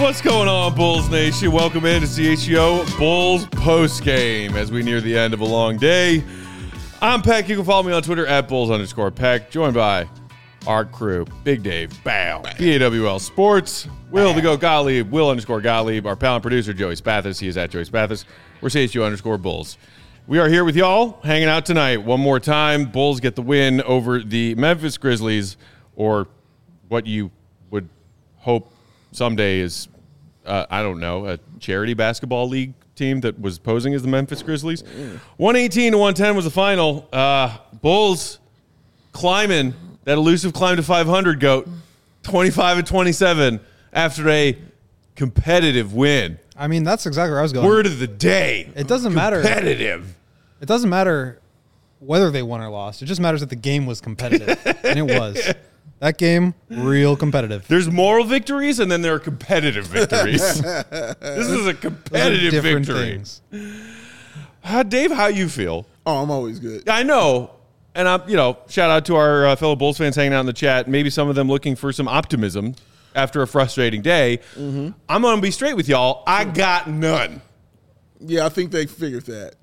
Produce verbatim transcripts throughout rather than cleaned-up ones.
What's going on, Bulls Nation? Welcome in to C H G O Bulls Postgame as we near the end of a long day. I'm Peck. You can follow me on Twitter at Bulls underscore Peck. Joined by our crew, Big Dave, Bow, B A W L Sports, Will the Go Gottlieb, Will underscore Gottlieb, our pal and producer, Joey Spathis. He is at Joey Spathis. We're C H G O underscore Bulls. We are here with y'all, hanging out tonight. One more time, Bulls get the win over the Memphis Grizzlies, or what you would hope someday is, uh, I don't know, a charity basketball league team that was posing as the Memphis Grizzlies. one eighteen to one ten was the final. Uh, Bulls climbing that elusive climb to five hundred, GOAT, twenty-five and twenty-seven after a competitive win. I mean, that's exactly where I was going. Word of the day. It doesn't matter. Competitive. It doesn't matter whether they won or lost. It just matters that the game was competitive. And it was. That game, real competitive. There's moral victories, and then there are competitive victories. This is a competitive different victory. Things. Uh, Dave, how you feel? Oh, I'm always good. I know. And, I'm, you know, shout out to our uh, fellow Bulls fans hanging out in the chat. Maybe some of them looking for some optimism after a frustrating day. Mm-hmm. I'm going to be straight with y'all. I got none. Yeah, I think they figured that.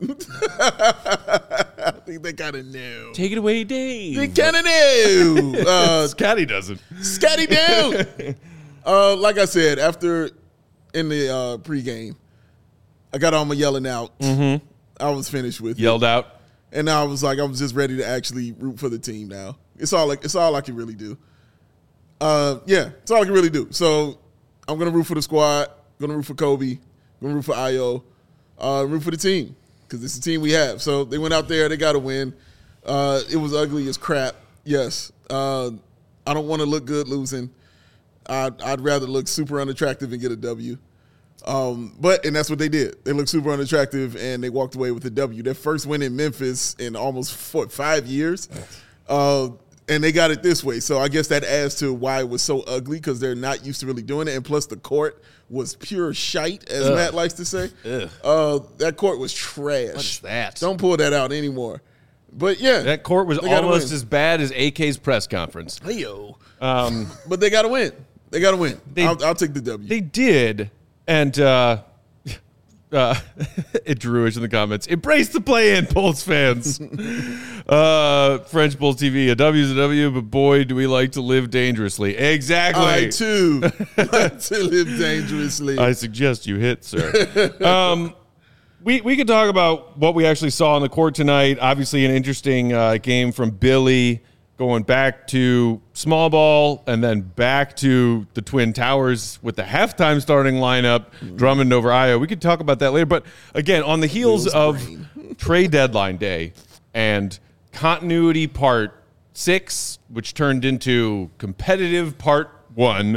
I think they kind of knew. Take it away, Dave. They kind of knew. Uh, Scotty doesn't. Scotty knew. uh, like I said, after in the uh, pregame, I got all my yelling out. Mm-hmm. I was finished with Yelled it. out. And I was like, I was just ready to actually root for the team now. It's all like it's all I can really do. Uh, yeah, it's all I can really do. So I'm gonna root for the squad. Gonna root for Kobe. Gonna root for Ayo. Uh, root for the team because it's the team we have. So they went out there. They got to win. Uh, it was ugly as crap. Yes. Uh, I don't want to look good losing. I'd, I'd rather look super unattractive and get a W. Um, but and that's what they did. They looked super unattractive and they walked away with a W. Their first win in Memphis in almost what, five years. Uh, and they got it this way. So I guess that adds to why it was so ugly because they're not used to really doing it. And plus the court was pure shite, as Ugh. Matt likes to say. Uh, that court was trash. What is that? Don't pull that out anymore. But, yeah. That court was almost as bad as A K's press conference. Hey-yo. Um, but they got to win. They got to win. They, I'll, I'll take the W. They did. And uh, uh, it Drewish in the comments. Embrace the play-in, Bulls fans. uh, French Bulls T V. A W is a W, but boy, do we like to live dangerously. Exactly. I, too, like to live dangerously. I suggest you hit, sir. um, we, we could talk about what we actually saw on the court tonight. Obviously, an interesting uh, game from Billy, going back to small ball and then back to the Twin Towers with the halftime starting lineup, mm-hmm. Drummond over Ayo. We could talk about that later. But, again, on the heels of trade deadline day and continuity part six, which turned into competitive part one,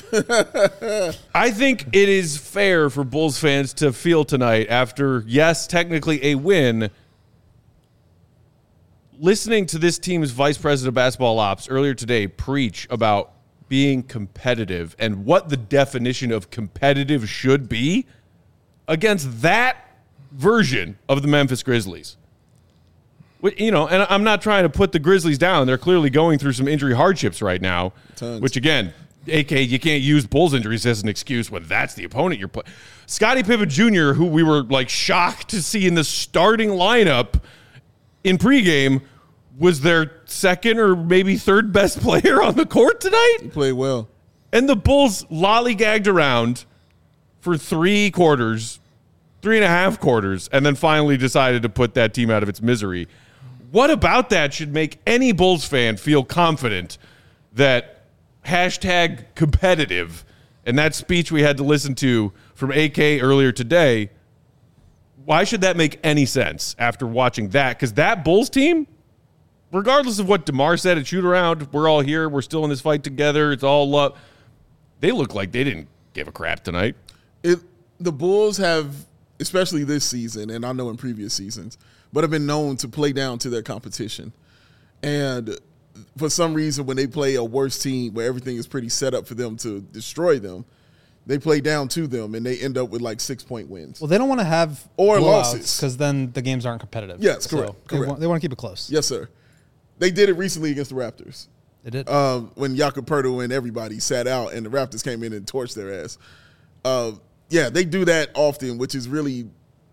I think it is fair for Bulls fans to feel tonight after, yes, technically a win, listening to this team's vice president of basketball ops earlier today preach about being competitive and what the definition of competitive should be against that version of the Memphis Grizzlies. You know, and I'm not trying to put the Grizzlies down. They're clearly going through some injury hardships right now, Tons. Which, again, A K, you can't use Bulls injuries as an excuse when that's the opponent you're playing. Scottie Pippen Junior, who we were, like, shocked to see in the starting lineup in pregame, was their second or maybe third best player on the court tonight. He played well. And the Bulls lollygagged around for three quarters, three and a half quarters, and then finally decided to put that team out of its misery. What about that should make any Bulls fan feel confident that hashtag competitive and that speech we had to listen to from A K earlier today, why should that make any sense after watching that? Because that Bulls team, regardless of what DeMar said at shoot around, we're all here, we're still in this fight together, it's all love. They look like they didn't give a crap tonight. It, the Bulls have, especially this season, and I know in previous seasons, but have been known to play down to their competition. And for some reason, when they play a worse team where everything is pretty set up for them to destroy them, they play down to them and they end up with like six-point wins. Well, they don't want to have or losses because then the games aren't competitive. Yes, correct. So correct. They, want, they want to keep it close. Yes, sir. They did it recently against the Raptors. They did. Um, when Jakob Poeltl and everybody sat out and the Raptors came in and torched their ass. uh, yeah, they do that often, which is really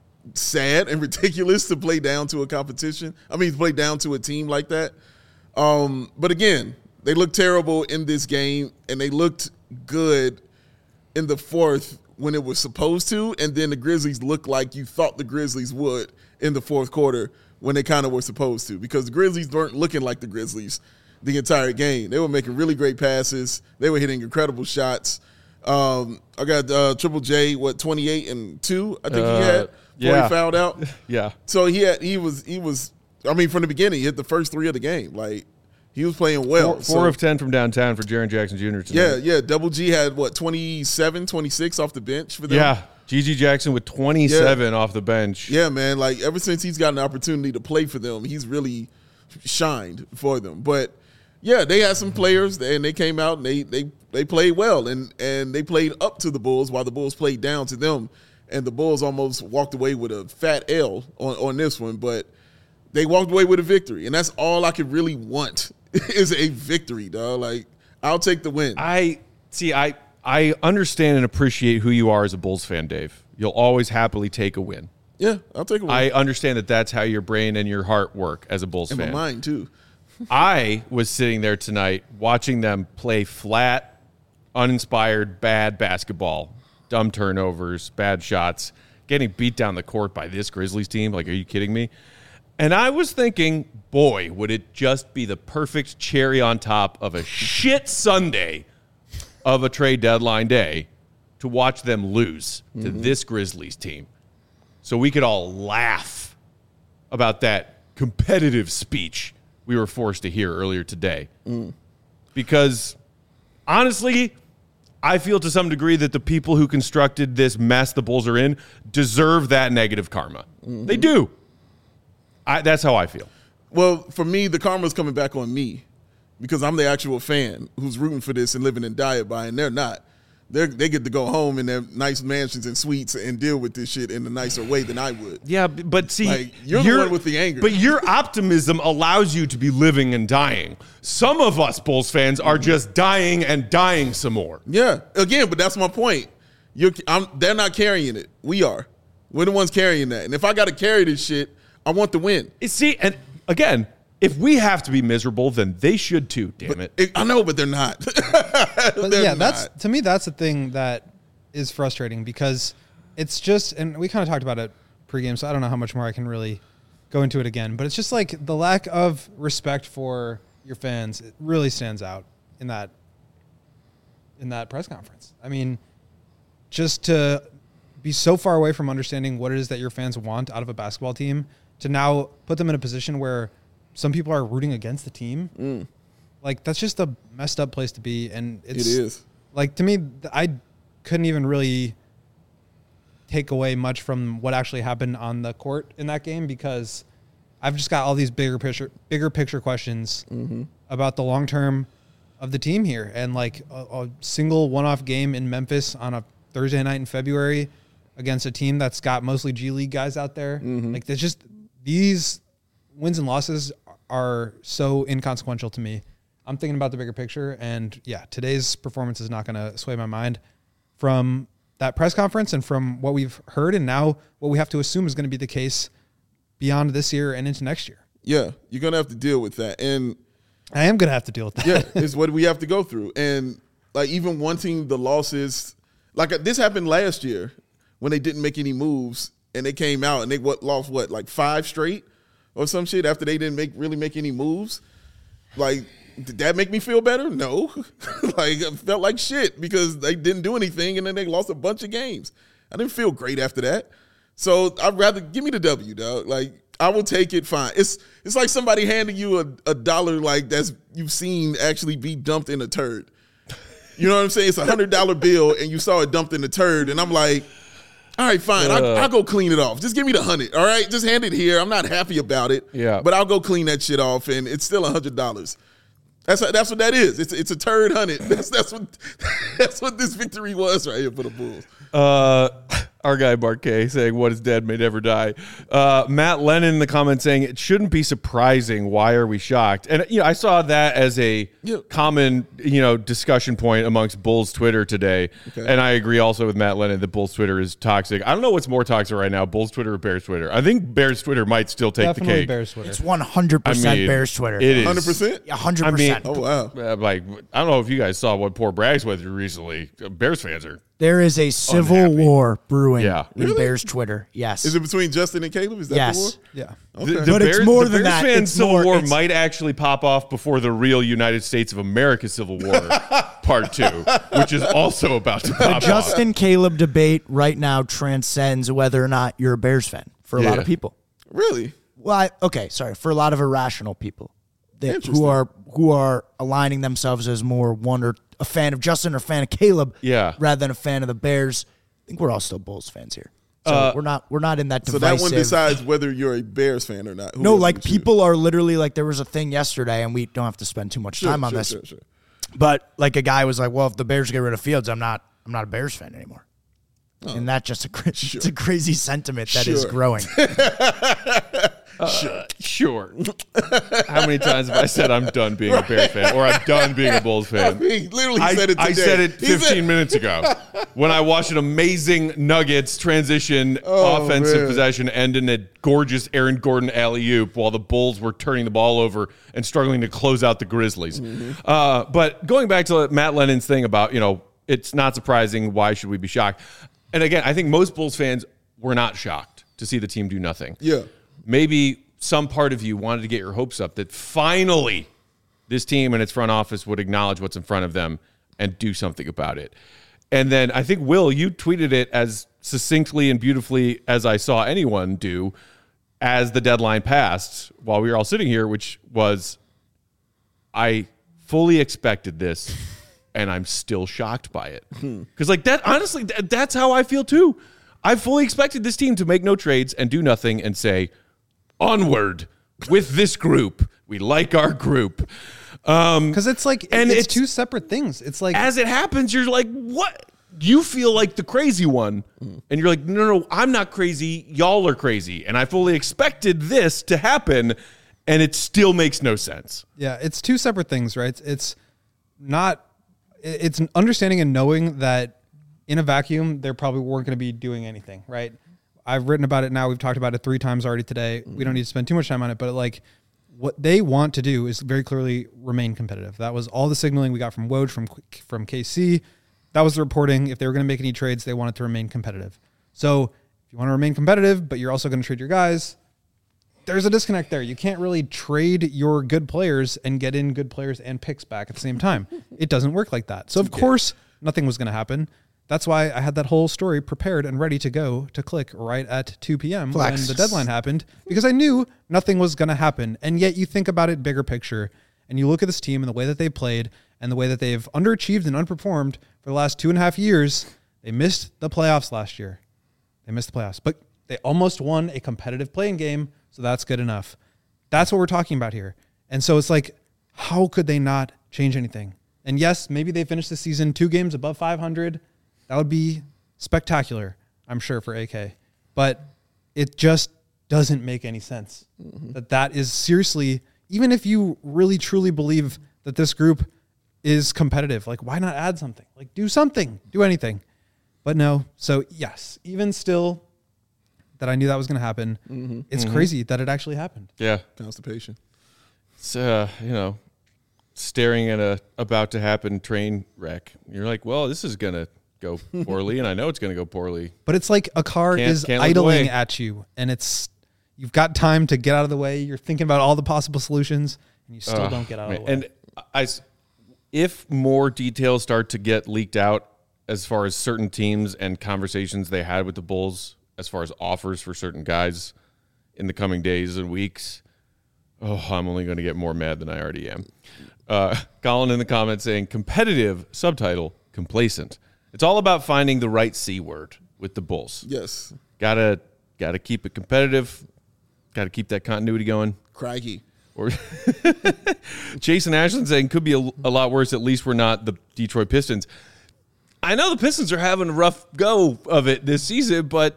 sad and ridiculous to play down to a competition. I mean, to play down to a team like that. Um, but again, they looked terrible in this game, and they looked good in the fourth when it was supposed to, and then the Grizzlies looked like you thought the Grizzlies would in the fourth quarter when they kind of were supposed to, because the Grizzlies weren't looking like the Grizzlies the entire game. They were making really great passes. They were hitting incredible shots. Um, I got uh, Triple J, what, twenty-eight and two, I think uh, he had before yeah. he fouled out. yeah. So he had, he was, he was, I mean, from the beginning, he hit the first three of the game. Like, he was playing well. Four, so, four of ten from downtown for Jaren Jackson Junior tonight. Yeah, yeah. Double G had, what, twenty-seven, twenty-six off the bench for them? Yeah. G G Jackson with twenty-seven yeah. off the bench. Yeah, man. Like, ever since he's gotten the opportunity to play for them, he's really shined for them. But, yeah, they had some players, and they came out, and they they, they played well, and, and they played up to the Bulls while the Bulls played down to them. And the Bulls almost walked away with a fat L on, on this one. But they walked away with a victory, and that's all I could really want is a victory, dog. Like, I'll take the win. I see. I I understand and appreciate who you are as a Bulls fan, Dave. You'll always happily take a win. Yeah, I'll take a win. I understand that that's how your brain and your heart work as a Bulls and fan. And my mind too. I was sitting there tonight watching them play flat, uninspired, bad basketball, dumb turnovers, bad shots, getting beat down the court by this Grizzlies team. Like, are you kidding me? And I was thinking, boy, would it just be the perfect cherry on top of a shit Sunday of a trade deadline day to watch them lose mm-hmm. to this Grizzlies team. So we could all laugh about that competitive speech we were forced to hear earlier today. Mm. Because, honestly, I feel to some degree that the people who constructed this mess the Bulls are in deserve that negative karma. Mm-hmm. They do. I, that's how I feel. Well, for me, the karma's coming back on me because I'm the actual fan who's rooting for this and living and die by, and they're not. They they get to go home in their nice mansions and suites and deal with this shit in a nicer way than I would. Yeah, but see, like, you're, you're the one with the anger. But your optimism allows you to be living and dying. Some of us Bulls fans are just dying and dying some more. Yeah, again, but that's my point. You're, I'm, they're not carrying it. We are. We're the ones carrying that. And if I got to carry this shit, I want the win. See, and again, if we have to be miserable, then they should too, damn but it. it. I know, but they're not. But they're yeah, not. that's to me, that's the thing that is frustrating because it's just, and we kind of talked about it pregame, so I don't know how much more I can really go into it again, but it's just like the lack of respect for your fans, it really stands out in that in that press conference. I mean, just to be so far away from understanding what it is that your fans want out of a basketball team to now put them in a position where some people are rooting against the team. Mm. Like, that's just a messed up place to be. And it's, it is. Like, to me, I couldn't even really take away much from what actually happened on the court in that game because I've just got all these bigger picture, bigger picture questions mm-hmm. about the long term of the team here. And, like, a, a single one-off game in Memphis on a Thursday night in February against a team that's got mostly G League guys out there. Mm-hmm. Like, there's just these wins and losses are so inconsequential to me. I'm thinking about the bigger picture, and yeah, today's performance is not going to sway my mind from that press conference and from what we've heard, and now what we have to assume is going to be the case beyond this year and into next year. Yeah, you're going to have to deal with that, and I am going to have to deal with that. Yeah, it's what we have to go through, and like even wanting the losses, like this happened last year when they didn't make any moves, and they came out and they what lost what like five straight or some shit after they didn't make really make any moves, like. Did that make me feel better? No. Like, I felt like shit because they didn't do anything and then they lost a bunch of games. I didn't feel great after that. So I'd rather give me the W, dog. Like, I will take it fine. It's it's like somebody handing you a, a dollar like that's you've seen actually be dumped in a turd. You know what I'm saying? It's a hundred dollar bill and you saw it dumped in a turd and I'm like, all right, fine. Uh, I, I'll go clean it off. Just give me the hundred. All right, just hand it here. I'm not happy about it. Yeah. But I'll go clean that shit off and it's still a hundred dollars. That's that's what that is. It's it's a turd hunted. That's that's what that's what this victory was right here for the Bulls. Uh, Our guy Marquet saying, what is dead may never die. Uh, Matt Lennon in the comments saying, it shouldn't be surprising. Why are we shocked? And, you know, I saw that as a Yeah. common, you know, discussion point amongst Bulls Twitter today. Okay. And I agree also with Matt Lennon that Bulls Twitter is toxic. I don't know what's more toxic right now, Bulls Twitter or Bears Twitter. I think Bears Twitter might still take Definitely the cake. Bears Twitter. It's one hundred percent I mean, Bears Twitter. It is. one hundred percent? Yeah, one hundred I mean, percent. Oh, wow. Uh, like, I don't know if you guys saw what poor Bragg's went through recently. Bears fans are. There is a civil Unhappy. war brewing Yeah. in Really? Bears Twitter. Yes. Is it between Justin and Caleb? Is that Yes. the war? Yeah. Okay. The, the But it's Bears, more the than Bears that. fans' It's Civil more- War it's- might actually pop off before the real United States of America Civil War Part Two, which is also about to the pop off. Justin Caleb debate right now transcends whether or not you're a Bears fan for a lot Yeah. of people. Really? Well, I, okay, sorry, for a lot of irrational people that, Interesting. who are who are aligning themselves as more one or a fan of Justin or a fan of Caleb, Yeah. rather than a fan of the Bears. I think we're all still Bulls fans here. So Uh, we're not we're not in that So divisive. that one decides whether you're a Bears fan or not. Who No, else like would you? people are literally like there was a thing yesterday, and we don't have to spend too much Sure, time on sure, this. Sure, sure. But like a guy was like, "Well, if the Bears get rid of Fields, I'm not I'm not a Bears fan anymore." And that's just a cra- it's a crazy sentiment that is Sure. growing. Uh, sure. How many times have I said I'm done being a Bears fan, or I'm done being a Bulls fan? He literally I, said it today. I said it He fifteen said- minutes ago when I watched an amazing Nuggets transition Oh, offensive man. possession end in a gorgeous Aaron Gordon alley-oop while the Bulls were turning the ball over and struggling to close out the Grizzlies. Mm-hmm. Uh, but going back to Matt Lennon's thing about, you know, it's not surprising. Why should we be shocked? And again, I think most Bulls fans were not shocked to see the team do nothing. Yeah. Maybe some part of you wanted to get your hopes up that finally this team and its front office would acknowledge what's in front of them and do something about it. And then I think, Will, you tweeted it as succinctly and beautifully as I saw anyone do as the deadline passed while we were all sitting here, which was, I fully expected this and I'm still shocked by it. Because like that, honestly, that, that's how I feel too. I fully expected this team to make no trades and do nothing and say, onward with this group. We like our group. Um, Because it's like, And it's, it's- two separate things. It's like, as it happens, you're like, what? You feel like the crazy one. And you're like, no, no, I'm not crazy. Y'all are crazy. And I fully expected this to happen. And it still makes no sense. yeah, it's two separate things, right? It's, it's not, it- it's an understanding and knowing that in a vacuum, they probably weren't going to be doing anything, right? I've written about it now. We've talked about it three times already today. We don't need to spend too much time on it, but like what they want to do is very clearly remain competitive. That was all the signaling we got from Woj, from from K C. That was the reporting. If they were going to make any trades, they wanted to remain competitive. So if you want to remain competitive, but you're also going to trade your guys, there's a disconnect there. You can't really trade your good players and get in good players and picks back at the same time. It doesn't work like that. So of course, nothing was going to happen. That's why I had that whole story prepared and ready to go to click right at two p.m. Flex. when the deadline happened, because I knew nothing was going to happen. And yet you think about it bigger picture and you look at this team and the way that they played and the way that they've underachieved and underperformed for the last two and a half years. They missed the playoffs last year. They missed the playoffs, but they almost won a competitive playing game. So that's good enough. That's what we're talking about here. And so it's like, how could they not change anything? And yes, maybe they finished the season two games above five hundred. That would be spectacular, I'm sure, for A K. But it just doesn't make any sense. Mm-hmm. That that is seriously, even if you really truly believe that this group is competitive, like why not add something? Like do something, do anything. But no. So yes, even still that I knew that was going to happen, mm-hmm. it's mm-hmm. crazy that it actually happened. Yeah. Constipation. It's, uh, you know, staring at a about to happen train wreck. You're like, well, this is going to go poorly, and I know it's going to go poorly. But it's like a car Can't- is can't look idling away. at you, and it's you've got time to get out of the way. You're thinking about all the possible solutions, and you still Uh, don't get out of the way. And I, s- if more details start to get leaked out as far as certain teams and conversations they had with the Bulls, as far as offers for certain guys in the coming days and weeks, oh, I'm only going to get more mad than I already am. Uh, Colin in the comments saying, competitive, subtitle, complacent. It's all about finding the right C word with the Bulls. Yes. Gotta, gotta keep it competitive. Gotta keep that continuity going. Crikey. Or Jason Ashland saying could be a, a lot worse. At least we're not the Detroit Pistons. I know the Pistons are having a rough go of it this season, but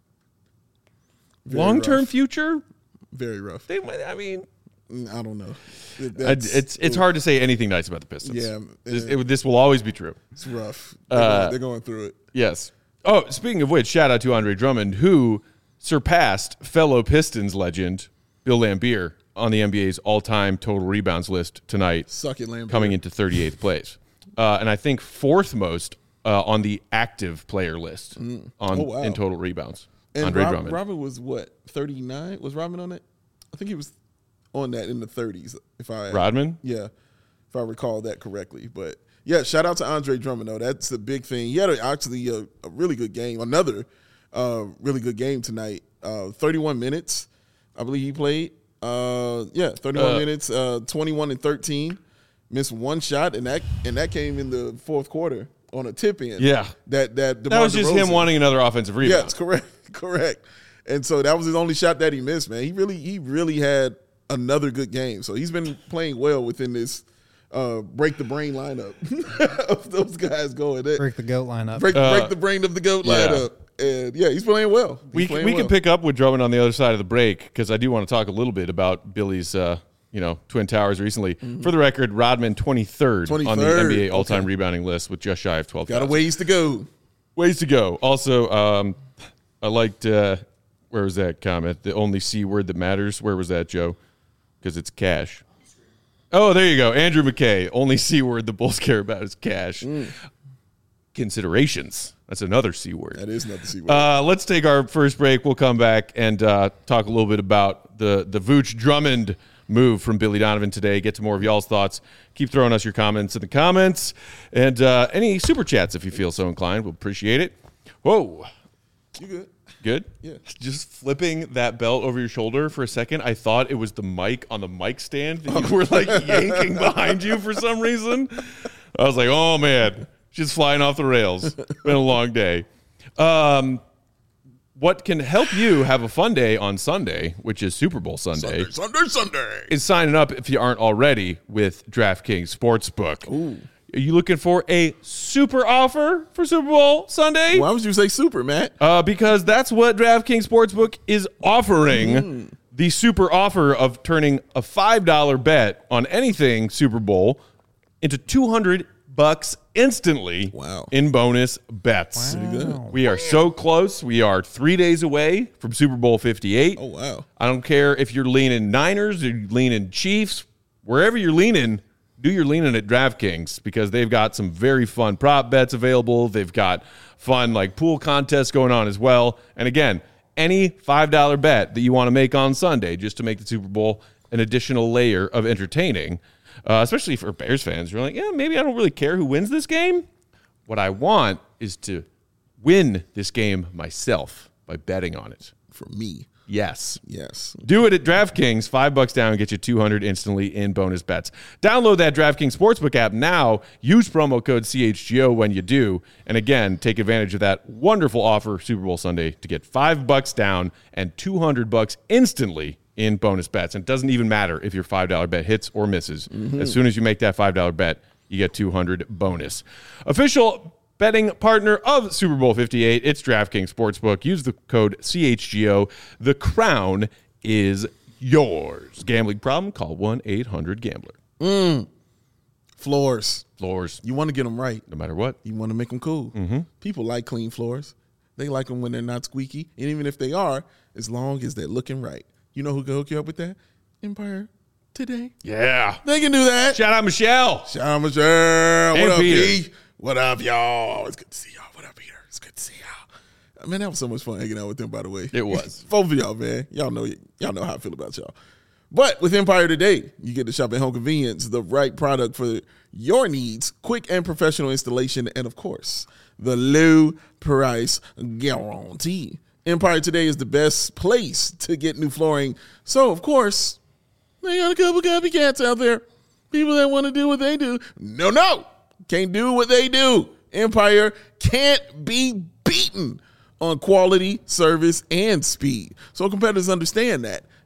Very long-term rough. future, Very rough. they might, I mean, Mm, I don't know. It- I- that's- it's it's hard to say anything nice about the Pistons. Yeah, This, uh, it- this will always be true. It's rough. They're, Uh, going, they're going through it. Yes. Oh, speaking of which, shout out to Andre Drummond, who surpassed fellow Pistons legend Bill Laimbeer on the N B A's all-time total rebounds list tonight, Suck it, Lamb. coming into thirty-eighth place. Uh, and I think fourth most uh, on the active player list on Oh, wow. in total rebounds. And Andre Rob, Drummond. Robert was what, thirty-nine? Was Robin on it? I think he was on that in the thirties. If I Rodman? Yeah, if I recall that correctly. But yeah, shout out to Andre Drummond, though. That's a big thing. He had a, actually a, a really good game. Another uh, really good game tonight. Uh, thirty-one minutes, I believe he played. Uh, yeah, thirty-one Uh, minutes, uh, twenty-one and thirteen. Missed one shot, and that and that came in the fourth quarter on a tip in. Yeah. that that That was DeMar just him DeRozan- wanting another offensive rebound. Yes, correct, correct. And so that was his only shot that he missed, man. He really, he really had another good game. So he's been playing well within this uh, break the brain lineup of those guys going. There. Break the goat lineup. Break, Uh, break the brain of the goat yeah. lineup. And yeah, he's playing well. He's We, playing we well. can pick up with Drummond on the other side of the break because I do want to talk a little bit about Billy's, uh, you know, Twin Towers recently. For the record, Rodman twenty-third, on the twenty-third. N B A all-time Okay. rebounding list with just shy of twelve. Got a ways to go. Ways to go. Also, um, I liked, uh, where was that comment? The only C word that matters. Where was that, Joe? Because it's cash. Oh, there you go. Andrew McKay. Only C word the Bulls care about is cash. Considerations. That's another C word. That is not the C word. Uh, let's take our first break. We'll come back and uh, talk a little bit about the the Vooch Drummond move from Billy Donovan today. Get to more of y'all's thoughts. Keep throwing us your comments in the comments and uh, any super chats if you feel so inclined. We'll appreciate it. Whoa, You good? good. Yeah. Just flipping that belt over your shoulder for a second. I thought it was the mic on the mic stand that you were like yanking behind you for some reason. I was like, oh man. Just flying off the rails. Been a long day. Um, what can help you have a fun day on Sunday, which is Super Bowl Sunday, Sunday, Sunday, Sunday. is signing up if you aren't already with DraftKings Sportsbook. Ooh. Are you looking for a super offer for Super Bowl Sunday? Why would you say super, Matt? Uh, because that's what DraftKings Sportsbook is offering. Mm. The super offer of turning a five dollar bet on anything Super Bowl into two hundred bucks instantly. Wow. In bonus bets. Wow. Pretty good. We are so close. We are three days away from Super Bowl fifty-eight. Oh, wow. I don't care if you're leaning Niners or you're leaning Chiefs. Wherever you're leaning, do your leaning at DraftKings because they've got some very fun prop bets available. They've got fun like pool contests going on as well. And again, any five dollar bet that you want to make on Sunday just to make the Super Bowl an additional layer of entertaining, uh, especially for Bears fans. You're like, yeah, maybe I don't really care who wins this game. What I want is to win this game myself by betting on it. For me, Yes. yes. Do it at DraftKings. Five bucks down, get you two hundred instantly in bonus bets. Download that DraftKings Sportsbook app now. Use promo code C H G O when you do. And again, take advantage of that wonderful offer Super Bowl Sunday to get five bucks down and two hundred bucks instantly in bonus bets. And it doesn't even matter if your five dollar bet hits or misses. Mm-hmm. As soon as you make that five dollar bet, you get two hundred bonus. Official betting partner of Super Bowl fifty-eight, it's DraftKings Sportsbook. Use the code C H G O. The crown is yours. Gambling problem? Call one eight hundred gambler. Mm. Floors. Floors, You want to get them right. no matter what. You want to make them cool. Mm-hmm. People like clean floors. They like them when they're not squeaky. And even if they are, as long as they're looking right. You know who can hook you up with that? Empire Today. Yeah. They can do that. Shout out Michelle. Shout out Michelle. And What up, Peter. P? What up, y'all? It's good to see y'all. What up, Peter? It's good to see y'all. Man, that was so much fun hanging out with them, by the way. It was. Both of y'all, man. Y'all know y'all know how I feel about y'all. But with Empire Today, you get to shop at home convenience, the right product for your needs, quick and professional installation, and of course, the low price guarantee. Empire Today is the best place to get new flooring. So, of course, they got a couple copycats out there. People that want to do what they do. No, no. Can't do what they do. Empire can't be beaten on quality, service, and speed. So competitors understand that.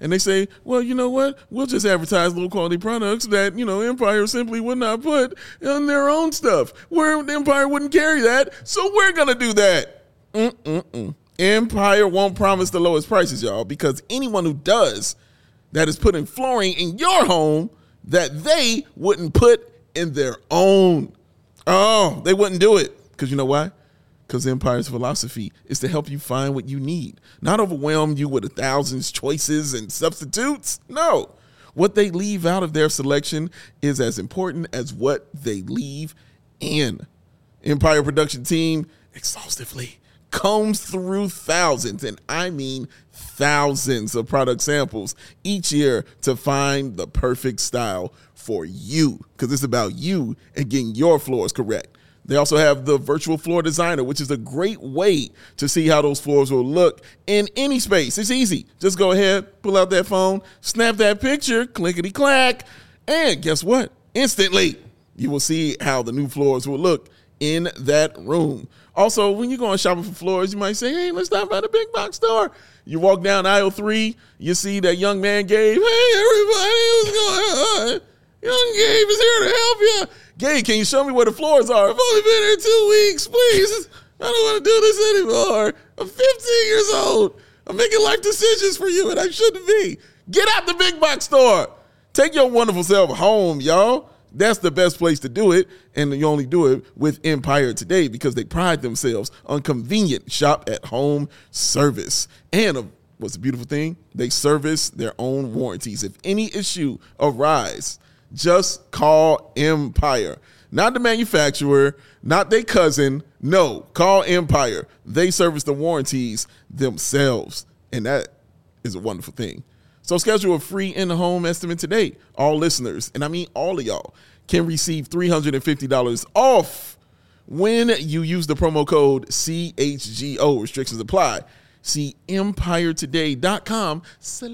and they say, well, you know what? We'll just advertise low quality products that, you know, Empire simply would not put on their own stuff. Where Empire wouldn't carry that, so we're going to do that. Mm-mm-mm. Empire won't promise the lowest prices, y'all, because anyone who does that is putting flooring in your home that they wouldn't put in their own. Oh, they wouldn't do it. Because you know why? Because Empire's philosophy is to help you find what you need, not overwhelm you with a thousand choices and substitutes. No. What they leave out of their selection is as important as what they leave in. Empire production team exhaustively combs through thousands, and I mean thousands of product samples each year to find the perfect style for you, because it's about you and getting your floors correct. They also have the virtual floor designer, which is a great way to see how those floors will look in any space. It's easy. Just go ahead, pull out that phone, snap that picture, clickety-clack, and guess what? Instantly, you will see how the new floors will look in that room. Also, when you're going shopping for floors, you might say, hey, let's stop by the big box store. You walk down aisle three, you see that young man Gabe. Hey, everybody, what's going on? Young Gabe is here to help you. Gabe, can you show me where the floors are? I've only been here two weeks, please. I don't want to do this anymore. I'm fifteen years old. I'm making life decisions for you, and I shouldn't be. Get out the big box store. Take your wonderful self home, y'all. That's the best place to do it, and you only do it with Empire Today because they pride themselves on convenient shop-at-home service. And uh, what's the beautiful thing? They service their own warranties. If any issue arises, just call Empire. Not the manufacturer, not their cousin. No, call Empire. They service the warranties themselves, and that is a wonderful thing. So schedule a free in-home estimate today. All listeners, and I mean all of y'all, can receive three hundred fifty dollars off when you use the promo code C H G O. Restrictions apply. See empiretoday.com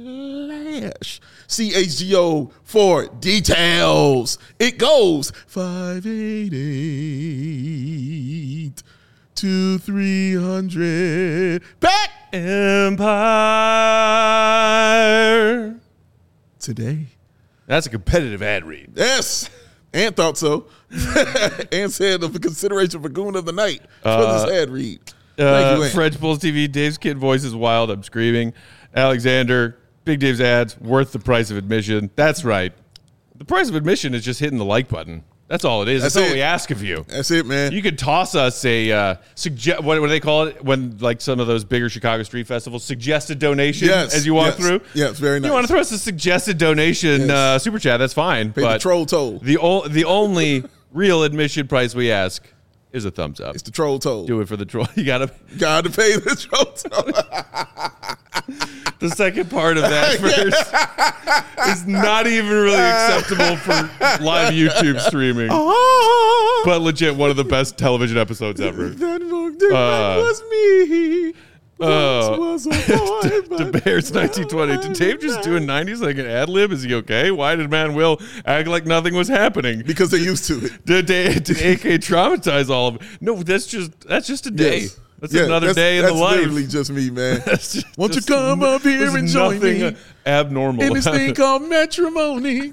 slash C H G O for details. It goes five eighty-eight to three hundred. Back Empire Today. That's a competitive ad read. Yes. Ant thought so. Ant said of the consideration for Goon of the Night for Uh, this ad read. Uh, you, Ant. French Bulls T V, Dave's kid voice is wild. I'm screaming. Alexander, Big Dave's ads, worth the price of admission. That's right. The price of admission is just hitting the like button. That's all it is. That's, That's all it. we ask of you. That's it, man. You could toss us a uh, suggest. What, what do they call it when like some of those bigger Chicago street festivals suggested donation Yes, as you walk yes. through? Yes, very nice. You want to throw us a suggested donation Yes. uh, super chat? That's fine. Pay but the troll toll. The o- the only real admission price we ask is a thumbs up. It's the troll toll. Do it for the troll. You gotta. Got to pay the troll toll. The second part of that verse is not even really acceptable for live YouTube streaming, but legit one of the best television episodes ever. That that Uh, was me. Oh, Once was a boy, the but Bears nineteen twenty. Did Dave just do a nineties like an ad lib? Is he okay? Why did Man Will act like nothing was happening? Because they're used to it. Did, did, did A K traumatize all of it? No, that's just that's just a day. Yes. That's Yeah, another that's, day in that's the life. literally just me, man. That's just- Won't you just come n- up here there's and join nothing me abnormal in this about thing it. called matrimony?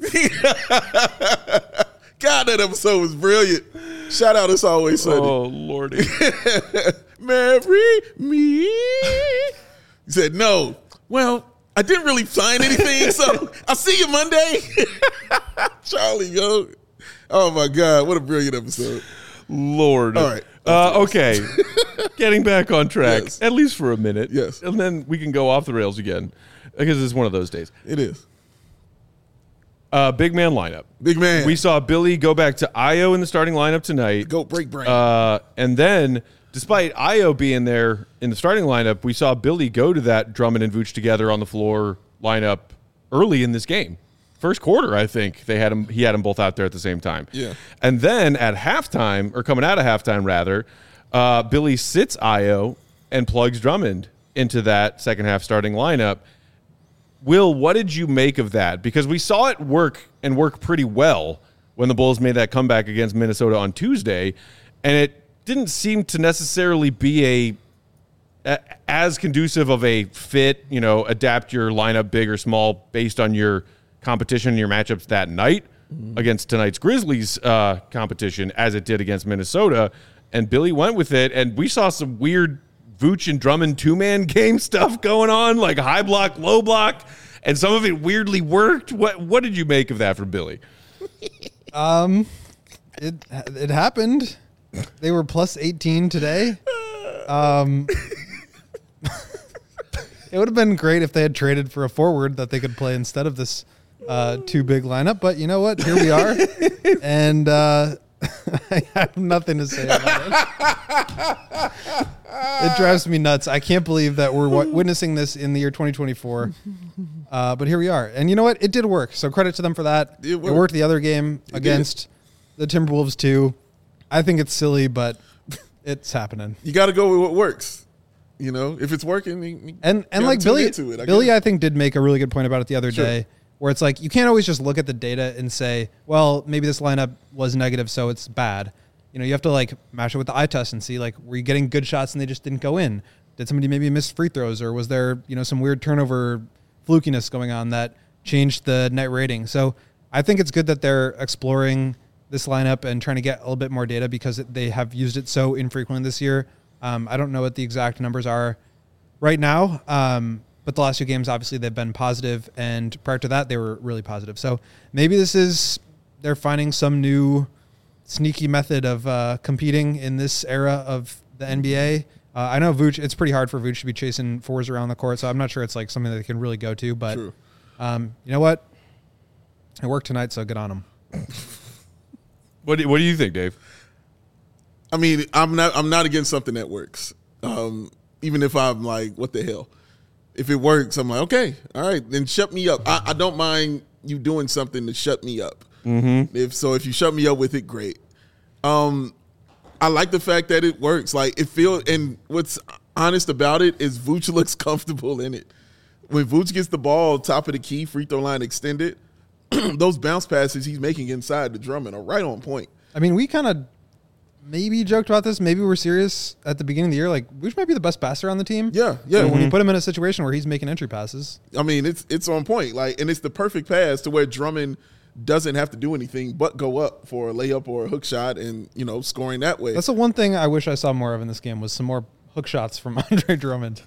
God, that episode was brilliant. Shout out, It's Always Sunny. Oh lordy. Marry me. He said, no. Well, I didn't really find anything, so I'll see you Monday. Charlie, yo. Oh, my God. What a brilliant episode. Lord. All right. Uh, okay. Getting back on track, Yes. at least for a minute. Yes. And then we can go off the rails again because it's one of those days. It is. Uh, big man lineup. Big man. We saw Billy go back to Io in the starting lineup tonight. Go break brain. Uh, and then, despite Io being there in the starting lineup, we saw Billy go to that Drummond and Vooch together on the floor lineup early in this game. First quarter, I think they had him. He had them both out there at the same time. Yeah. And then at halftime, or coming out of halftime rather, uh, Billy sits Io and plugs Drummond into that second half starting lineup. Will, what did you make of that? Because we saw it work and work pretty well when the Bulls made that comeback against Minnesota on Tuesday, and it didn't seem to necessarily be a a, as conducive of a fit, you know, adapt your lineup big or small based on your competition, your matchups that night mm-hmm. against tonight's Grizzlies uh, competition as it did against Minnesota. And Billy went with it, and we saw some weird Vooch and Drummond two-man game stuff going on, like high block, low block, and some of it weirdly worked. What what did you make of that from Billy? Um, it it happened. They were plus eighteen today. Um, it would have been great if they had traded for a forward that they could play instead of this uh, too big lineup. But you know what? Here we are, and uh, I have nothing to say about it. It drives me nuts. I can't believe that we're w- witnessing this in the year twenty twenty-four. Uh, but here we are. And you know what? It did work. So credit to them for that. It worked, it worked the other game it against did. the Timberwolves too. I think it's silly, but it's happening. You got to go with what works. You know, if it's working, you, you and and like Billy, it, I Billy, guess. I think did make a really good point about it the other sure. day, where it's like you can't always just look at the data and say, well, maybe this lineup was negative, so it's bad. You know, you have to like match it with the eye test and see like, were you getting good shots and they just didn't go in? Did somebody maybe miss free throws, or was there, you know, some weird turnover flukiness going on that changed the net rating? So I think it's good that they're exploring this lineup and trying to get a little bit more data because they have used it so infrequently this year. Um, I don't know what the exact numbers are right now, um, but the last two games, obviously, they've been positive, and prior to that, they were really positive. So maybe this is, they're finding some new sneaky method of uh, competing in this era of the N B A. Uh, I know Vooch, it's pretty hard for Vooch to be chasing fours around the court, so I'm not sure it's like something that they can really go to, but um, you know what? It worked tonight, so good on them. What do, what do you think, Dave? I mean, I'm not I'm not against something that works. Um, even if I'm like, what the hell? If it works, I'm like, okay, all right, then shut me up. I, I don't mind you doing something to shut me up. Mm-hmm. If so, if you shut me up with it, great. Um, I like the fact that it works. Like it feels, and what's honest about it is Vooch looks comfortable in it. When Vooch gets the ball top of the key, free throw line extended, those bounce passes he's making inside the Drummond are right on point. I mean, we kind of maybe joked about this. Maybe we're serious at the beginning of the year. Like, Vooch might be the best passer on the team. Yeah, yeah. So mm-hmm. when you put him in a situation where he's making entry passes, I mean, it's it's on point. Like, and it's the perfect pass to where Drummond doesn't have to do anything but go up for a layup or a hook shot, and you know, scoring that way. That's the one thing I wish I saw more of in this game was some more hook shots from Andre Drummond.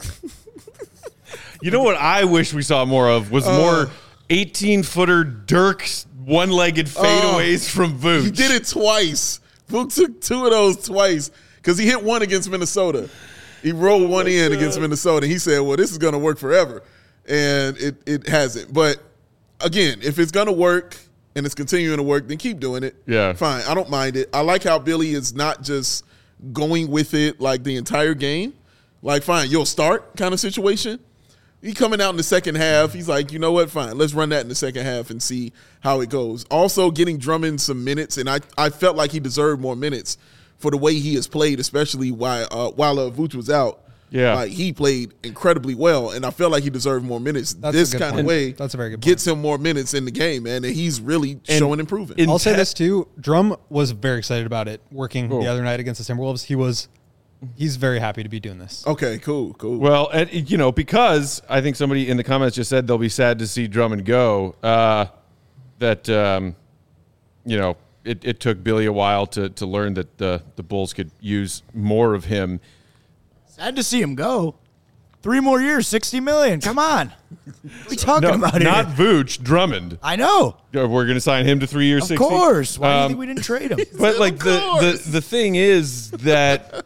You know what I wish we saw more of was uh, more eighteen-footer Dirk's one-legged fadeaways uh, from Vooch. He did it twice. Vooch took two of those twice because he hit one against Minnesota. He rolled one oh in God. against Minnesota. He said, well, this is going to work forever. And it, it hasn't. But, again, if it's going to work and it's continuing to work, then keep doing it. Yeah. Fine. I don't mind it. I like how Billy is not just going with it like the entire game. Like, fine, you'll start kind of situation. He coming out in the second half. He's like, you know what? Fine. Let's run that in the second half and see how it goes. Also getting Drummond some minutes, and I, I felt like he deserved more minutes for the way he has played, especially while uh, while uh, Vooch was out. Yeah, like he played incredibly well, and I felt like he deserved more minutes. That's this kind point. of way That's a very good gets point. him more minutes in the game, man, and he's really and showing improvement. I'll say this too. Drum was very excited about it working cool. the other night against the Timberwolves. He was He's very happy to be doing this. Okay, cool, cool. Well, and, you know, because I think somebody in the comments just said they'll be sad to see Drummond go, uh, that, um, you know, it, it took Billy a while to to learn that the, the Bulls could use more of him. Sad to see him go. Three more years, sixty million dollars. Come on. What are we talking no, about not here? Not Vooch, Drummond. I know. We're going to sign him to three years, of sixty. Of course. Why um, do you think we didn't trade him? But, like, the, the, the thing is that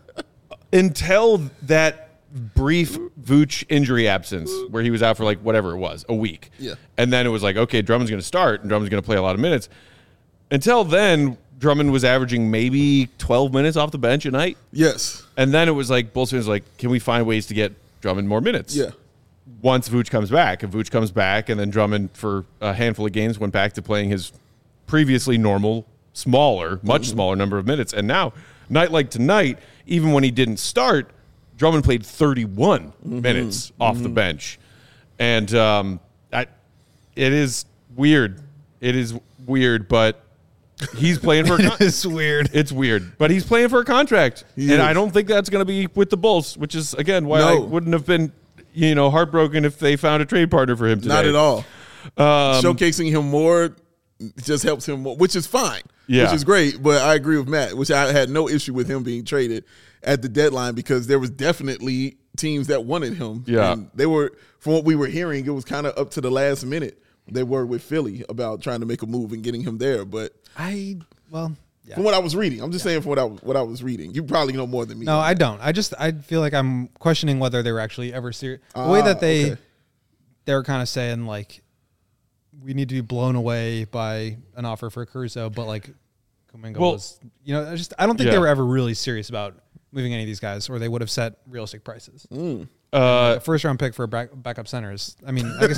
until that brief Vooch injury absence where he was out for like whatever it was, a week. Yeah. And then it was like, okay, Drummond's going to start and Drummond's going to play a lot of minutes. Until then, Drummond was averaging maybe twelve minutes off the bench a night. Yes. And then it was like, Bulls fans were like, can we find ways to get Drummond more minutes? Yeah. Once Vooch comes back. And Vooch comes back, and then Drummond for a handful of games went back to playing his previously normal, smaller, much mm-hmm. smaller number of minutes. And now, night like tonight, even when he didn't start, Drummond played thirty-one mm-hmm. minutes off mm-hmm. the bench. And um, I, it is weird. It is weird, but He's playing for a con- It's weird. It's weird, but he's playing for a contract, He and is. I don't think that's going to be with the Bulls, which is again why I No. wouldn't have been, you know, heartbroken if they found a trade partner for him today. Not at all. Um, Showcasing him more just helps him more, which is fine. Yeah. Which is great. But I agree with Matt, which I had no issue with him being traded at the deadline because there was definitely teams that wanted him. Yeah. And they were, from what we were hearing, it was kind of up to the last minute. They were with Philly about trying to make a move and getting him there. But I well, yeah. from what I was reading, I'm just saying from what I, what I was reading. You probably know more than me. No, I don't. I just I feel like I'm questioning whether they were actually ever serious. The way Ah, that they okay. they were kind of saying like we need to be blown away by an offer for Caruso, but like Kuminga Well- was, you know, I just I don't think Yeah. they were ever really serious about moving any of these guys, or they would have set realistic prices. uh, A first round pick for a back, backup centers. I mean, I guess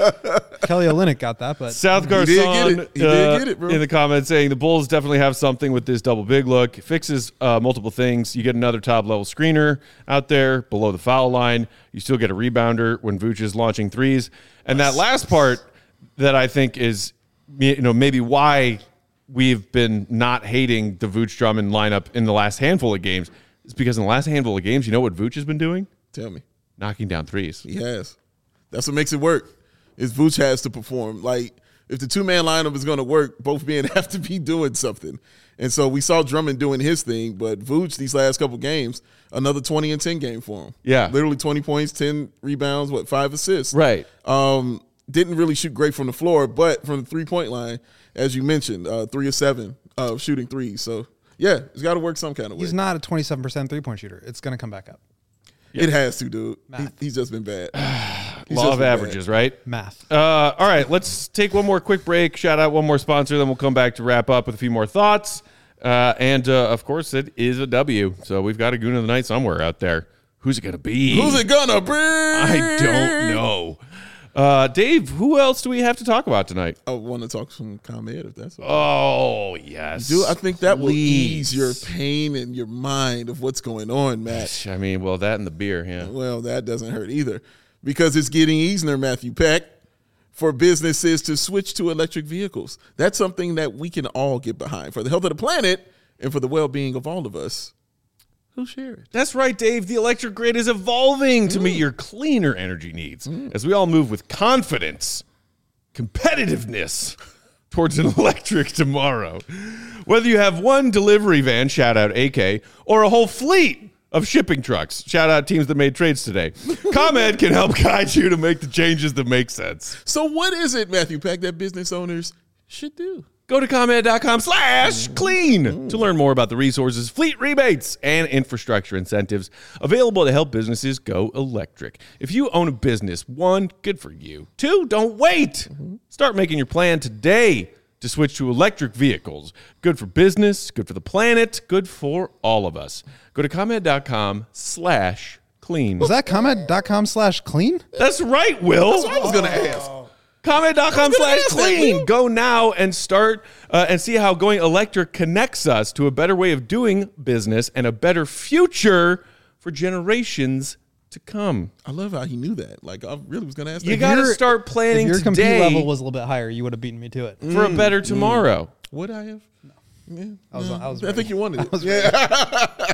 Kelly Olynyk got that, but South He did get Garcon it. He did uh, get it, bro. in the comments saying the Bulls definitely have something with this double big look. It fixes uh, multiple things. You get another top level screener out there below the foul line. You still get a rebounder when Vooch is launching threes. And that last part that I think is, you know, maybe why we've been not hating the Vooch Drummond lineup in the last handful of games is because in the last handful of games, you know what Vooch has been doing? Tell me. Knocking down threes. He has. That's what makes it work. Is Vooch has to perform. Like, if the two-man lineup is going to work, both men have to be doing something. And so we saw Drummond doing his thing, but Vooch, these last couple games, another twenty and ten game for him. Yeah. Literally twenty points, ten rebounds, what, five assists. Right. Um, didn't really shoot great from the floor, but from the three-point line, as you mentioned, uh, three or seven uh, shooting threes. So, yeah, it's got to work some kind of way. he's not a twenty-seven percent three point shooter. It's going to come back up. It has to, dude. He, Math. he's just been bad. He's Law just of been bad. averages, right? Math. Uh, all right, let's take one more quick break. Shout out one more sponsor, then we'll come back to wrap up with a few more thoughts. Uh, and, uh, of course, it is a W. So we've got a Goon of the Night somewhere out there. Who's it going to be? Who's it gonna be? I don't know. Uh, Dave, who else do we have to talk about tonight? I want to talk some ComEd if that's okay. Oh, yes. Dude, I think that will Please. ease your pain and your mind of what's going on, Matt. I mean, well, that and the beer, yeah. Well, that doesn't hurt either because it's getting easier, Matthew Peck, for businesses to switch to electric vehicles. That's something that we can all get behind for the health of the planet and for the well-being of all of us who share it. That's right, Dave. The electric grid is evolving to meet your cleaner energy needs as we all move with confidence, competitiveness towards an electric tomorrow. Whether you have one delivery van, shout out A K, or a whole fleet of shipping trucks, shout out teams that made trades today, ComEd can help guide you to make the changes that make sense. So what is it, Matthew Peck, that business owners should do? Go to ComEd.com slash clean to learn more about the resources, fleet rebates, and infrastructure incentives available to help businesses go electric. If you own a business, one, good for you. Two, don't wait. Start making your plan today to switch to electric vehicles. Good for business, good for the planet, good for all of us. Go to ComEd.com slash clean. Was that comment.com slash clean? That's right, Will. That's what I was going to ask. ComEd.com slash ask that, clean. Will. Go now and start uh, and see how going electric connects us to a better way of doing business and a better future for generations to come. I love how he knew that. Like, I really was going to ask You that. got to your- start planning If your compete today level was a little bit higher, you would have beaten me to it. for a better tomorrow. Would I have? Yeah. I was, I was I ready. think you wanted it. Yeah.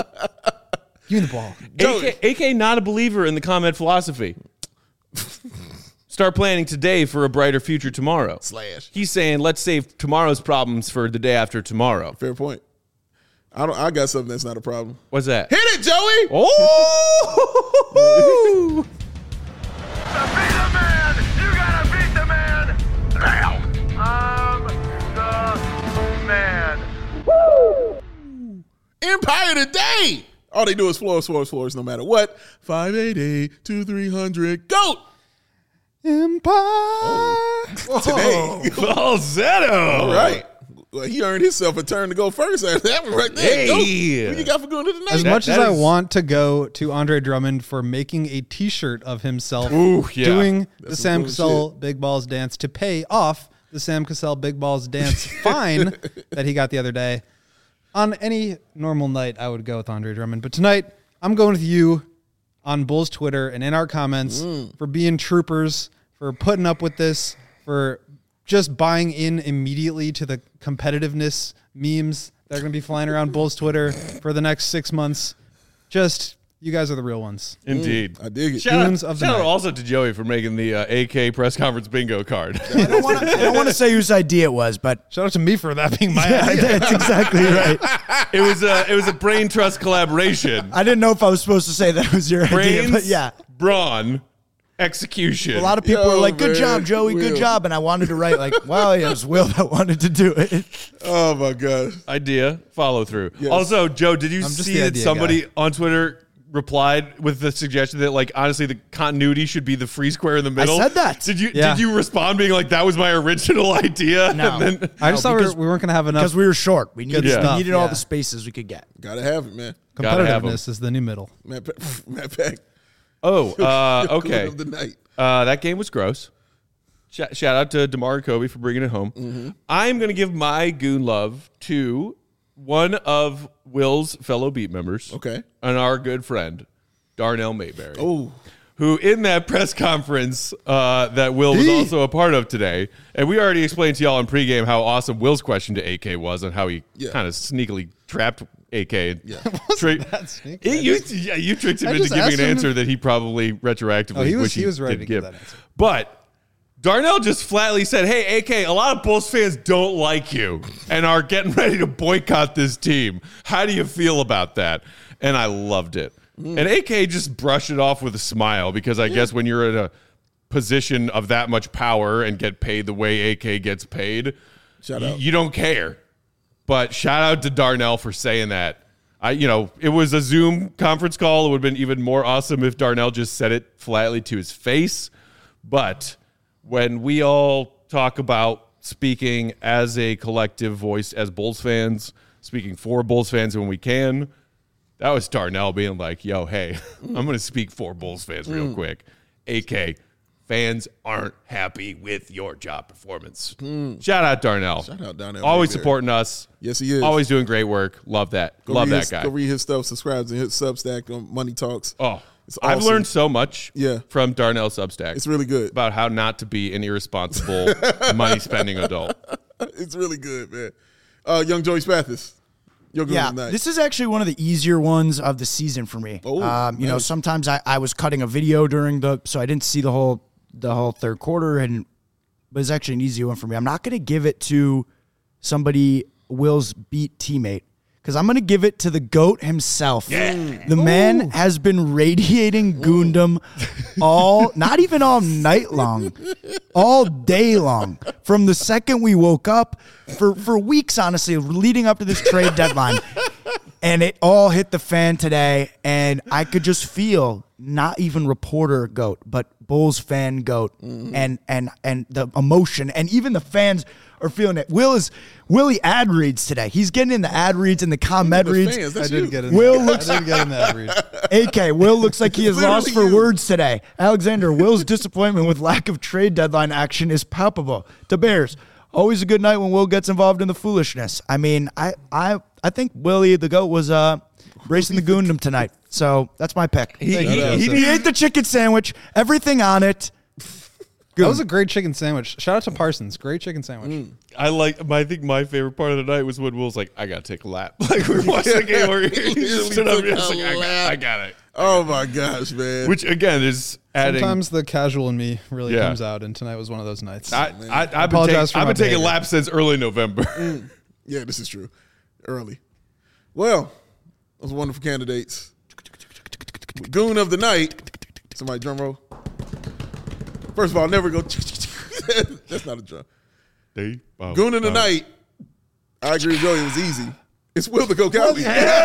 Give me the ball. A K, A K not a believer in the ComEd philosophy. Start planning today for a brighter future tomorrow. Slash. He's saying, let's save tomorrow's problems for the day after tomorrow. Fair point. I don't. I got something that's not a problem. What's that? Hit it, Joey. Oh! Be the man! You gotta beat the man! Now! I'm the man. Empire today. All they do is floors, floors, floors, no matter what. five eighty, two three hundred, GOAT. Empire. Today. Falsetto! All right. Well, he earned himself a turn to go first. That one right there. Hey. GOAT. What you got for going to the night? As That- much as that I is- want to go to Andre Drummond for making a T-shirt of himself Ooh, yeah. doing the That's Sam some Cassell cool Big Balls dance to pay off the Sam Cassell Big Balls dance fine that he got the other day, on any normal night I would go with Andre Drummond. But tonight I'm going with you on Bulls Twitter and in our comments Mm. for being troopers, for putting up with this, for just buying in immediately to the competitiveness memes that are going to be flying around Bulls Twitter for the next six months. Just, you guys are the real ones. Indeed. Mm, I dig it. Shout, Goons out, of the shout out night. also to Joey for making the uh, A K press conference bingo card. I don't want to. I don't want to say whose idea it was, but Shout out to me for that being my yeah, idea. that's exactly right. it was a it was a brain trust collaboration. I didn't know if I was supposed to say that was your idea, Brains, but yeah. brawn, execution. A lot of people Yo, were like, "Good man, job, Joey. Will. Good job." And I wanted to write like, "Well, it was Will that wanted to do it." Oh my god. idea follow through. Yes. Also, Joe, did you I'm just see the that idea somebody guy. on Twitter replied with the suggestion that, like, honestly, the continuity should be the free square in the middle? said that. Did you Yeah. did you respond being like, that was my original idea? No. And then, I just No, thought we, because- were, we weren't going to have enough. Because we were short. We needed, stuff, we needed all yeah. the spaces we could get. Gotta have it, man. Gotta have 'em. Competitiveness is the new middle. Matt, Pa- Matt Pack. oh, uh, Goon okay. of the night. Uh, that game was gross. Shout, shout out to DeMar and Kobe for bringing it home. Mm-hmm. I'm going to give my goon love to one of Will's fellow beat members. Okay. And our good friend, Darnell Mayberry. Oh, Who in that press conference uh, that Will was also a part of today, and we already explained to y'all in pregame how awesome Will's question to A K was and how he Yeah. kind of sneakily trapped A K. Yeah. Tri- that sneaky. It- you, yeah, you tricked him I into just giving asked an him answer to- that he probably retroactively Oh, he was- wish he was ready didn't to give give. that answer. But Darnell just flatly said, hey, A K, a lot of Bulls fans don't like you and are getting ready to boycott this team. How do you feel about that? And I loved it. Mm. And A K just brushed it off with a smile because I guess when you're in a position of that much power and get paid the way A K gets paid, Shout y- out. you don't care. But shout out to Darnell for saying that. I, you know, it was a Zoom conference call. It would have been even more awesome if Darnell just said it flatly to his face. But when we all talk about speaking as a collective voice as Bulls fans, speaking for Bulls fans when we can, that was Darnell being like, yo, hey, I'm going to speak for Bulls fans real quick. A K, fans aren't happy with your job performance. Shout out Darnell. Shout out Darnell Always Mayberry. supporting us. Yes, he is. Always doing great work. Love that. Go Love read that his, guy. Go read his stuff. Subscribe to his Substack on Money Talks. Oh, It's I've awesome. learned so much Yeah. from Darnell Substack. It's really good. about how not to be an irresponsible money spending adult. It's really good, man. Uh, young Joey Spathis. Your good Yeah, night. this is actually one of the easier ones of the season for me. Oh, um, you know, nice. sometimes I, I was cutting a video during the, so I didn't see the whole the whole third quarter, and but it's actually an easy one for me. I'm not going to give it to somebody Will's beat teammate because I'm going to give it to the GOAT himself. The man has been radiating Goondom all, not even all night long, all day long. From the second we woke up, for, for weeks, honestly, leading up to this trade deadline. And it all hit the fan today, and I could just feel not even reporter GOAT, but Bulls fan GOAT, and and and the emotion, and even the fans are feeling it. Will is Willie ad reads today. He's getting in the ad reads and the comment The reads. fans, I that's didn't you. get in. Will that. looks- I didn't get in that read. A K, Will looks like he is Literally lost for you. words today. Alexander, Will's disappointment with lack of trade deadline action is palpable. To Bears, always a good night when Will gets involved in the foolishness. I mean, I I I think Willie the GOAT was uh racing the Goondom tonight. So that's my pick. He, Thank you, he- Joseph. he ate the chicken sandwich, everything on it. That was a great chicken sandwich. Shout out to Parsons. Great chicken sandwich. I like. My, I think my favorite part of the night was when Will's like, "I gotta take a lap." Like we were watching the game where he Literally just stood up took and was a like, I got, lap. "I got it." Oh my gosh, man. Which again is adding. Sometimes the casual in me really Yeah. comes out, and tonight was one of those nights. I, I, I've been, apologize take, for I've my been taking behavior. laps since early November. Yeah, this is true. Early. Well, those wonderful candidates. Goon of the night. Somebody drum roll. First of all, never go. That's not a drum. They- oh, Goon of the oh. night. I agree with Joey. It was easy. It's Will the Go Cowley.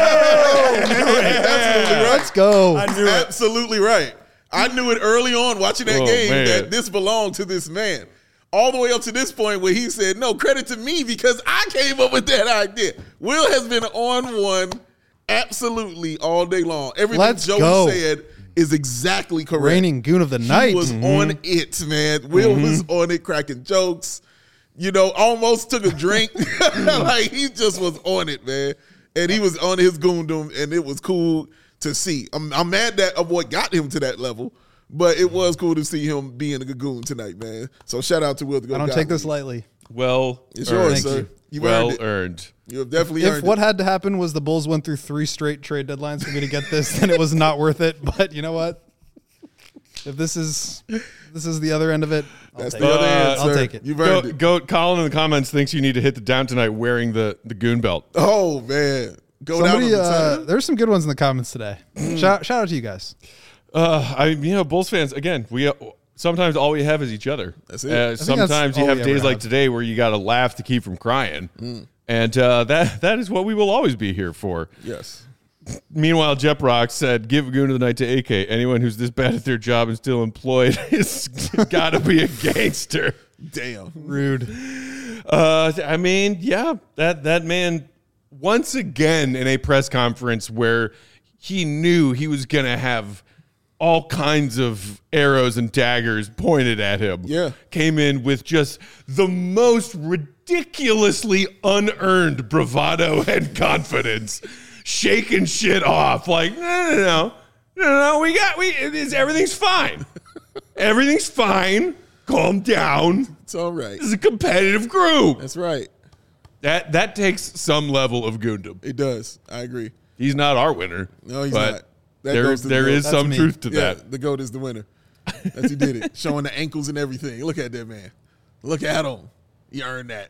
Absolutely right. Let's go. Absolutely right. I knew it early on watching that Oh, game man. that this belonged to this man. All the way up to this point where he said, no, credit to me because I came up with that idea. Will has been on one absolutely all day long. Everything Let's Joey go. said is exactly correct. Reigning goon of the He night. was on it, man. Will was on it, cracking jokes. You know, almost took a drink. Like he just was on it, man. And he was on his goondom, and it was cool to see. I'm, I'm mad that of what got him to that level, But it was cool to see him being a Gagoon tonight, man. So shout out to Will to go. I don't take this lightly. Well, It's earned. yours, sir. You well earned it. earned. You have definitely If earned what it. had to happen was the Bulls went through three straight trade deadlines for me to get this, then it was not worth it. But you know what? If this is this is the other end of it, I'll That's take the it. other end, I'll sir. take it. You've earned it. Goat, Goat Colin in the comments thinks you need to hit the down tonight wearing the, the goon belt. Oh man, go Somebody, down on the uh, time. there's some good ones in the comments today. shout, shout out to you guys. Uh, I you know Bulls fans again. We uh, sometimes all we have is each other. That's it. Uh, I think that's sometimes you all have we days ever like have. today where you got to laugh to keep from crying, and uh, that that is what we will always be here for. Yes. Meanwhile, Jep Rock said, "Give a goon of the night to A K. Anyone who's this bad at their job and still employed is got to be a gangster." Damn. Rude. Uh, I mean, yeah, that that man once again in a press conference where he knew he was gonna have all kinds of arrows and daggers pointed at him. Yeah. Came in with just the most ridiculously unearned bravado and confidence, shaking shit off. Like, no, no, no, no, no, we got, we, it's, everything's fine. Everything's fine. Calm down. It's all right. This is a competitive group. That's right. That that takes some level of goondom. It does. I agree. He's not our winner. No, he's but not. That there goes to the there goat. is That's some me. truth to Yeah, that. the GOAT is the winner. That's he did it. Showing the ankles and everything. Look at that man. Look at him. He earned that.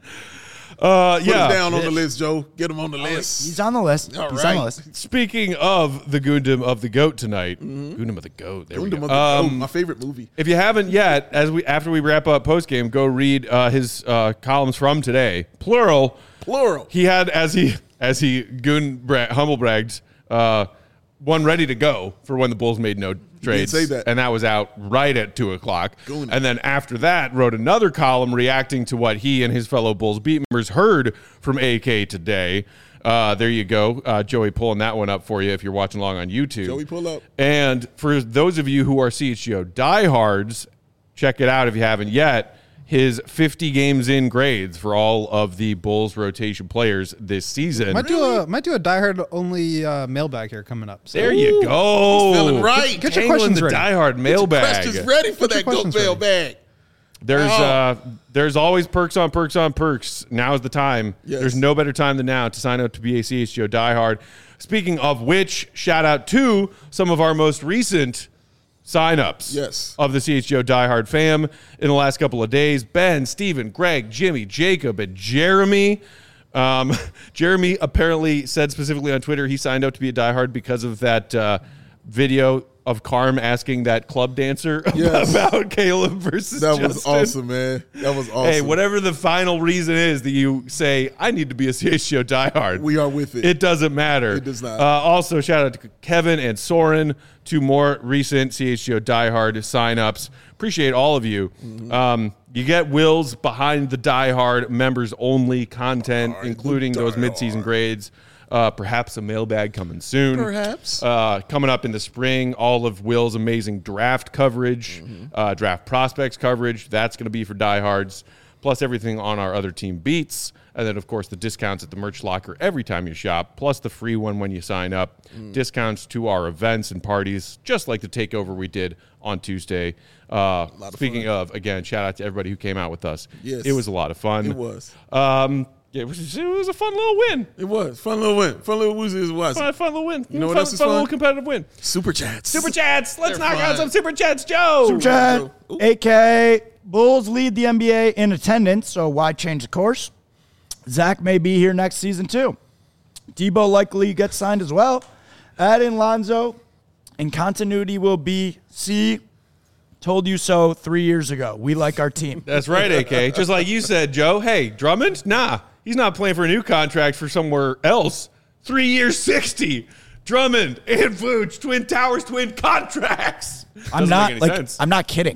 Uh, Put yeah. him down on the list, Joe. Get him on the list. He's on the list. All He's on the right. list. Speaking of the Goondom of the Goat tonight, Goondom of the Goat. There we Gundam go. of the Um, GOAT, my favorite movie. If you haven't yet, as we after we wrap up post game, go read uh, his uh, columns from today, plural. Plural. He had as he as he goon bra- humble bragged uh, one ready to go for when the Bulls made no trades, say that. and that was out right at two o'clock. Goon. And then after that, wrote another column reacting to what he and his fellow Bulls beat members heard from A K today. Uh, there you go, uh, Joey, pulling that one up for you if you're watching along on YouTube. Joey, pull up. And for those of you who are C H G O diehards, check it out if you haven't yet. His fifty games in grades for all of the Bulls rotation players this season. Might do a might do a diehard only uh, mailbag here coming up. So. There you go. feeling right. Get, Get your Tangling questions the ready. diehard mailbag. Questions ready for Get your that GOAT questions ready. mailbag. There's Oh. uh, there's always perks on perks on perks. Now is the time. Yes. There's no better time than now to sign up to be a C H G O diehard. Speaking of which, shout out to some of our most recent signups Yes. of the C H G O diehard fam in the last couple of days. Ben, Steven, Greg, Jimmy, Jacob, and Jeremy. Um, Jeremy apparently said specifically on Twitter he signed up to be a diehard because of that uh, video of Carm asking that club dancer Yes. about Caleb versus That was Justin. awesome, man. That was awesome. Hey, whatever the final reason is that you say, I need to be a C H G O diehard. We are with it. It doesn't matter. It does not. Uh, also, shout out to Kevin and Soren, two more recent C H G O diehard signups. Appreciate all of you. Mm-hmm. Um, you get Will's behind the diehard members only content, Behind the including those diehard. midseason grades. Uh, perhaps a mailbag coming soon. Perhaps. Uh, coming up in the spring, all of Will's amazing draft coverage, Mm-hmm. uh, draft prospects coverage. That's going to be for diehards, plus everything on our other team beats. And then, of course, the discounts at the merch locker every time you shop, plus the free one when you sign up. Mm. Discounts to our events and parties, just like the takeover we did on Tuesday. Uh, of speaking fun. of, again, shout out to everybody who came out with us. Yes. It was a lot of fun. It was. Um, it was. It was a fun little win. It was. Fun little win. Fun little woozy as it was. Fun, fun little win. You know what fun, else is fun fun? little competitive win. Super chats. Super chats. Let's They're knock out fun. some super chats, Joe. Super chat. Ooh. A K Bulls lead the N B A in attendance, so why change the course? Zach may be here next season too. Debo likely gets signed as well. Add in Lonzo, and continuity will be C. Told you so three years ago. We like our team. That's right, A K. Just like you said, Joe. Hey, Drummond? Nah, he's not playing for a new contract for somewhere else. Three years, sixty. Drummond and Vooch, Twin Towers, twin contracts. I'm Doesn't not make any like sense. I'm not kidding.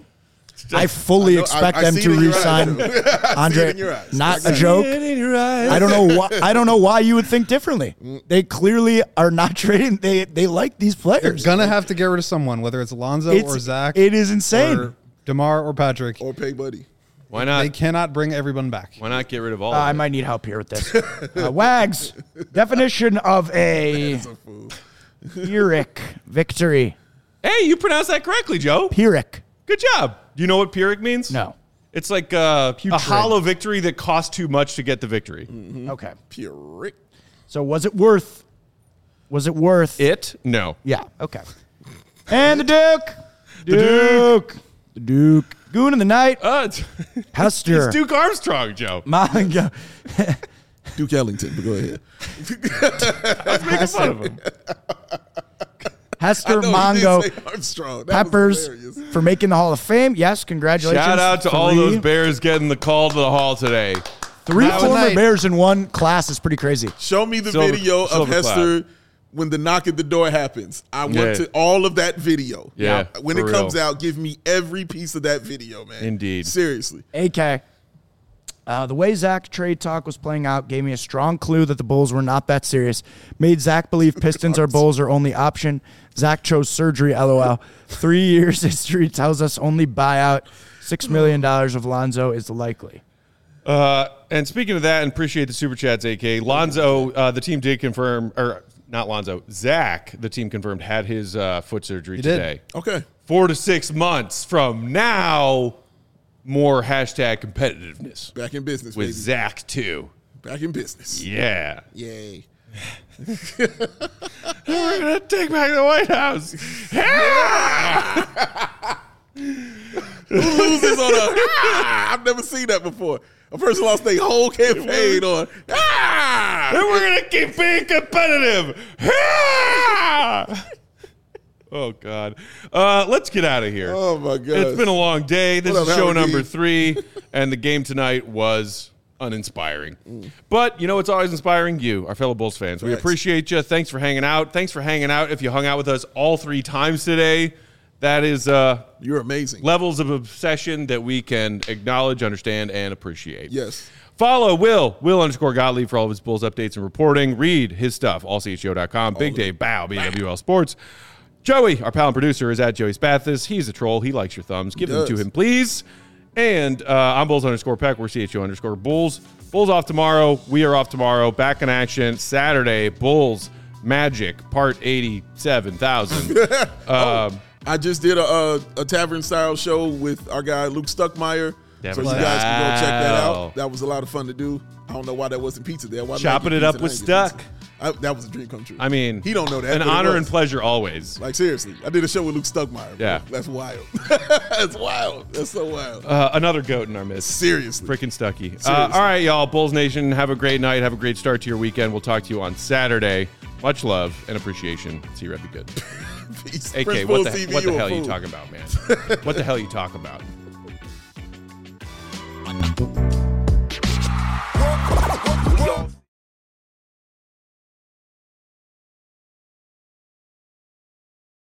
I fully I know- expect I- I them see to it in your re-sign eyes, too. I see it Andre. in your eyes. Not I a got it. joke. In your eyes. I don't know why. I don't know why you would think differently. They clearly are not trading. They they like these players. Gonna have to get rid of someone, whether it's Alonzo It's- or Zach. It is insane. or DeMar or Patrick. Or pay buddy. Why not? They cannot bring everyone back. Why not get rid of all Uh, of I it? might need help here with this. Uh, Wags, definition of a That's a fool. Pyrrhic victory. Hey, you pronounced that correctly, Joe. Pyrrhic. Good job. Do you know what Pyrrhic means? No. It's like uh, a Putrid. hollow victory that cost too much to get the victory. Okay. Pyrrhic. So was it worth? Was it worth? It? No. Yeah. Okay. And the Duke. Duke. The Duke. Goon of the night. Uh, it's, Hester. it's Duke Armstrong, Joe. Manga. Duke Ellington, but go ahead. Let's make fun of him. Hester I know, he Mongo did say Armstrong. That was Peppers hilarious. for making the Hall of Fame. Yes, congratulations. Shout out to Three. all those Bears getting the call to the Hall today. Three That was former nice. Bears in one class is pretty crazy. Show me the Silver- video of silver Hester cloud. when the knock at the door happens. I want Yeah. to all of that video. Yeah, When for it comes real. out, give me every piece of that video, man. Indeed. Seriously. A K. Uh, the way Zach trade talk was playing out gave me a strong clue that the Bulls were not that serious. Made Zach believe Pistons or Bulls are only option. Zach chose surgery, LOL. Three years history tells us only buyout. Six million dollars of Lonzo is likely. Uh, and speaking of that, and appreciate the super chats, A K. Lonzo, uh, the team did confirm, or not Lonzo, Zach, the team confirmed, had his uh, foot surgery He did. today. Okay. Four to six months from now, more hashtag competitiveness Back in business, with baby. Zach, too. Back in business. Yeah. Yay. We're going to take back the White House. Yeah! Who loses on a ah, I've never seen that before. A person lost their whole campaign on ah! And we're going to keep being competitive. Yeah! Oh, God. Uh, let's get out of here. Oh, my God. It's been a long day. This What is up, show Howard number D? three, and the game tonight was uninspiring. But you know what's always inspiring? You, our fellow Bulls fans. We Facts. appreciate you. Thanks for hanging out. Thanks for hanging out if you hung out with us all three times today. That is uh, You're amazing. levels of obsession that we can acknowledge, understand, and appreciate. Yes. Follow Will, Will underscore Gottlieb for all of his Bulls updates and reporting. Read his stuff, all c h o dot com. Big Dave Bow, B W L Sports. Joey, our pal and producer, is at Joey Spathis. He's a troll. He likes your thumbs. Give them to does. him, please. And uh, I'm Bulls underscore Peck. We're C H O underscore Bulls. Bulls off tomorrow. We are off tomorrow. Back in action Saturday. Bulls Magic, part eighty-seven thousand. um, I just did a, a, a tavern style show with our guy Luke Stuckmeyer. Tavern so you guys can go check that style. out. That was a lot of fun to do. I don't know why there wasn't pizza there. Why did I Chopping get it up pizza with and I didn't get Stuck. pizza? I, that was a dream come true. I mean, he don't know that. An but it honor was. and pleasure always. Like seriously, I did a show with Luke Stuckmeyer. Bro. Yeah. That's wild. That's wild. That's so wild. Uh, another goat in our midst. Seriously. Freaking Stucky. Uh, Seriously. all right, y'all. Bulls Nation, have a great night. Have a great start to your weekend. We'll talk to you on Saturday. Much love and appreciation. See you, Rep. Be good. Peace. A K, Prince what Bull the, T V, what the you a hell are you fool. talking about, man? What the hell are you talking about?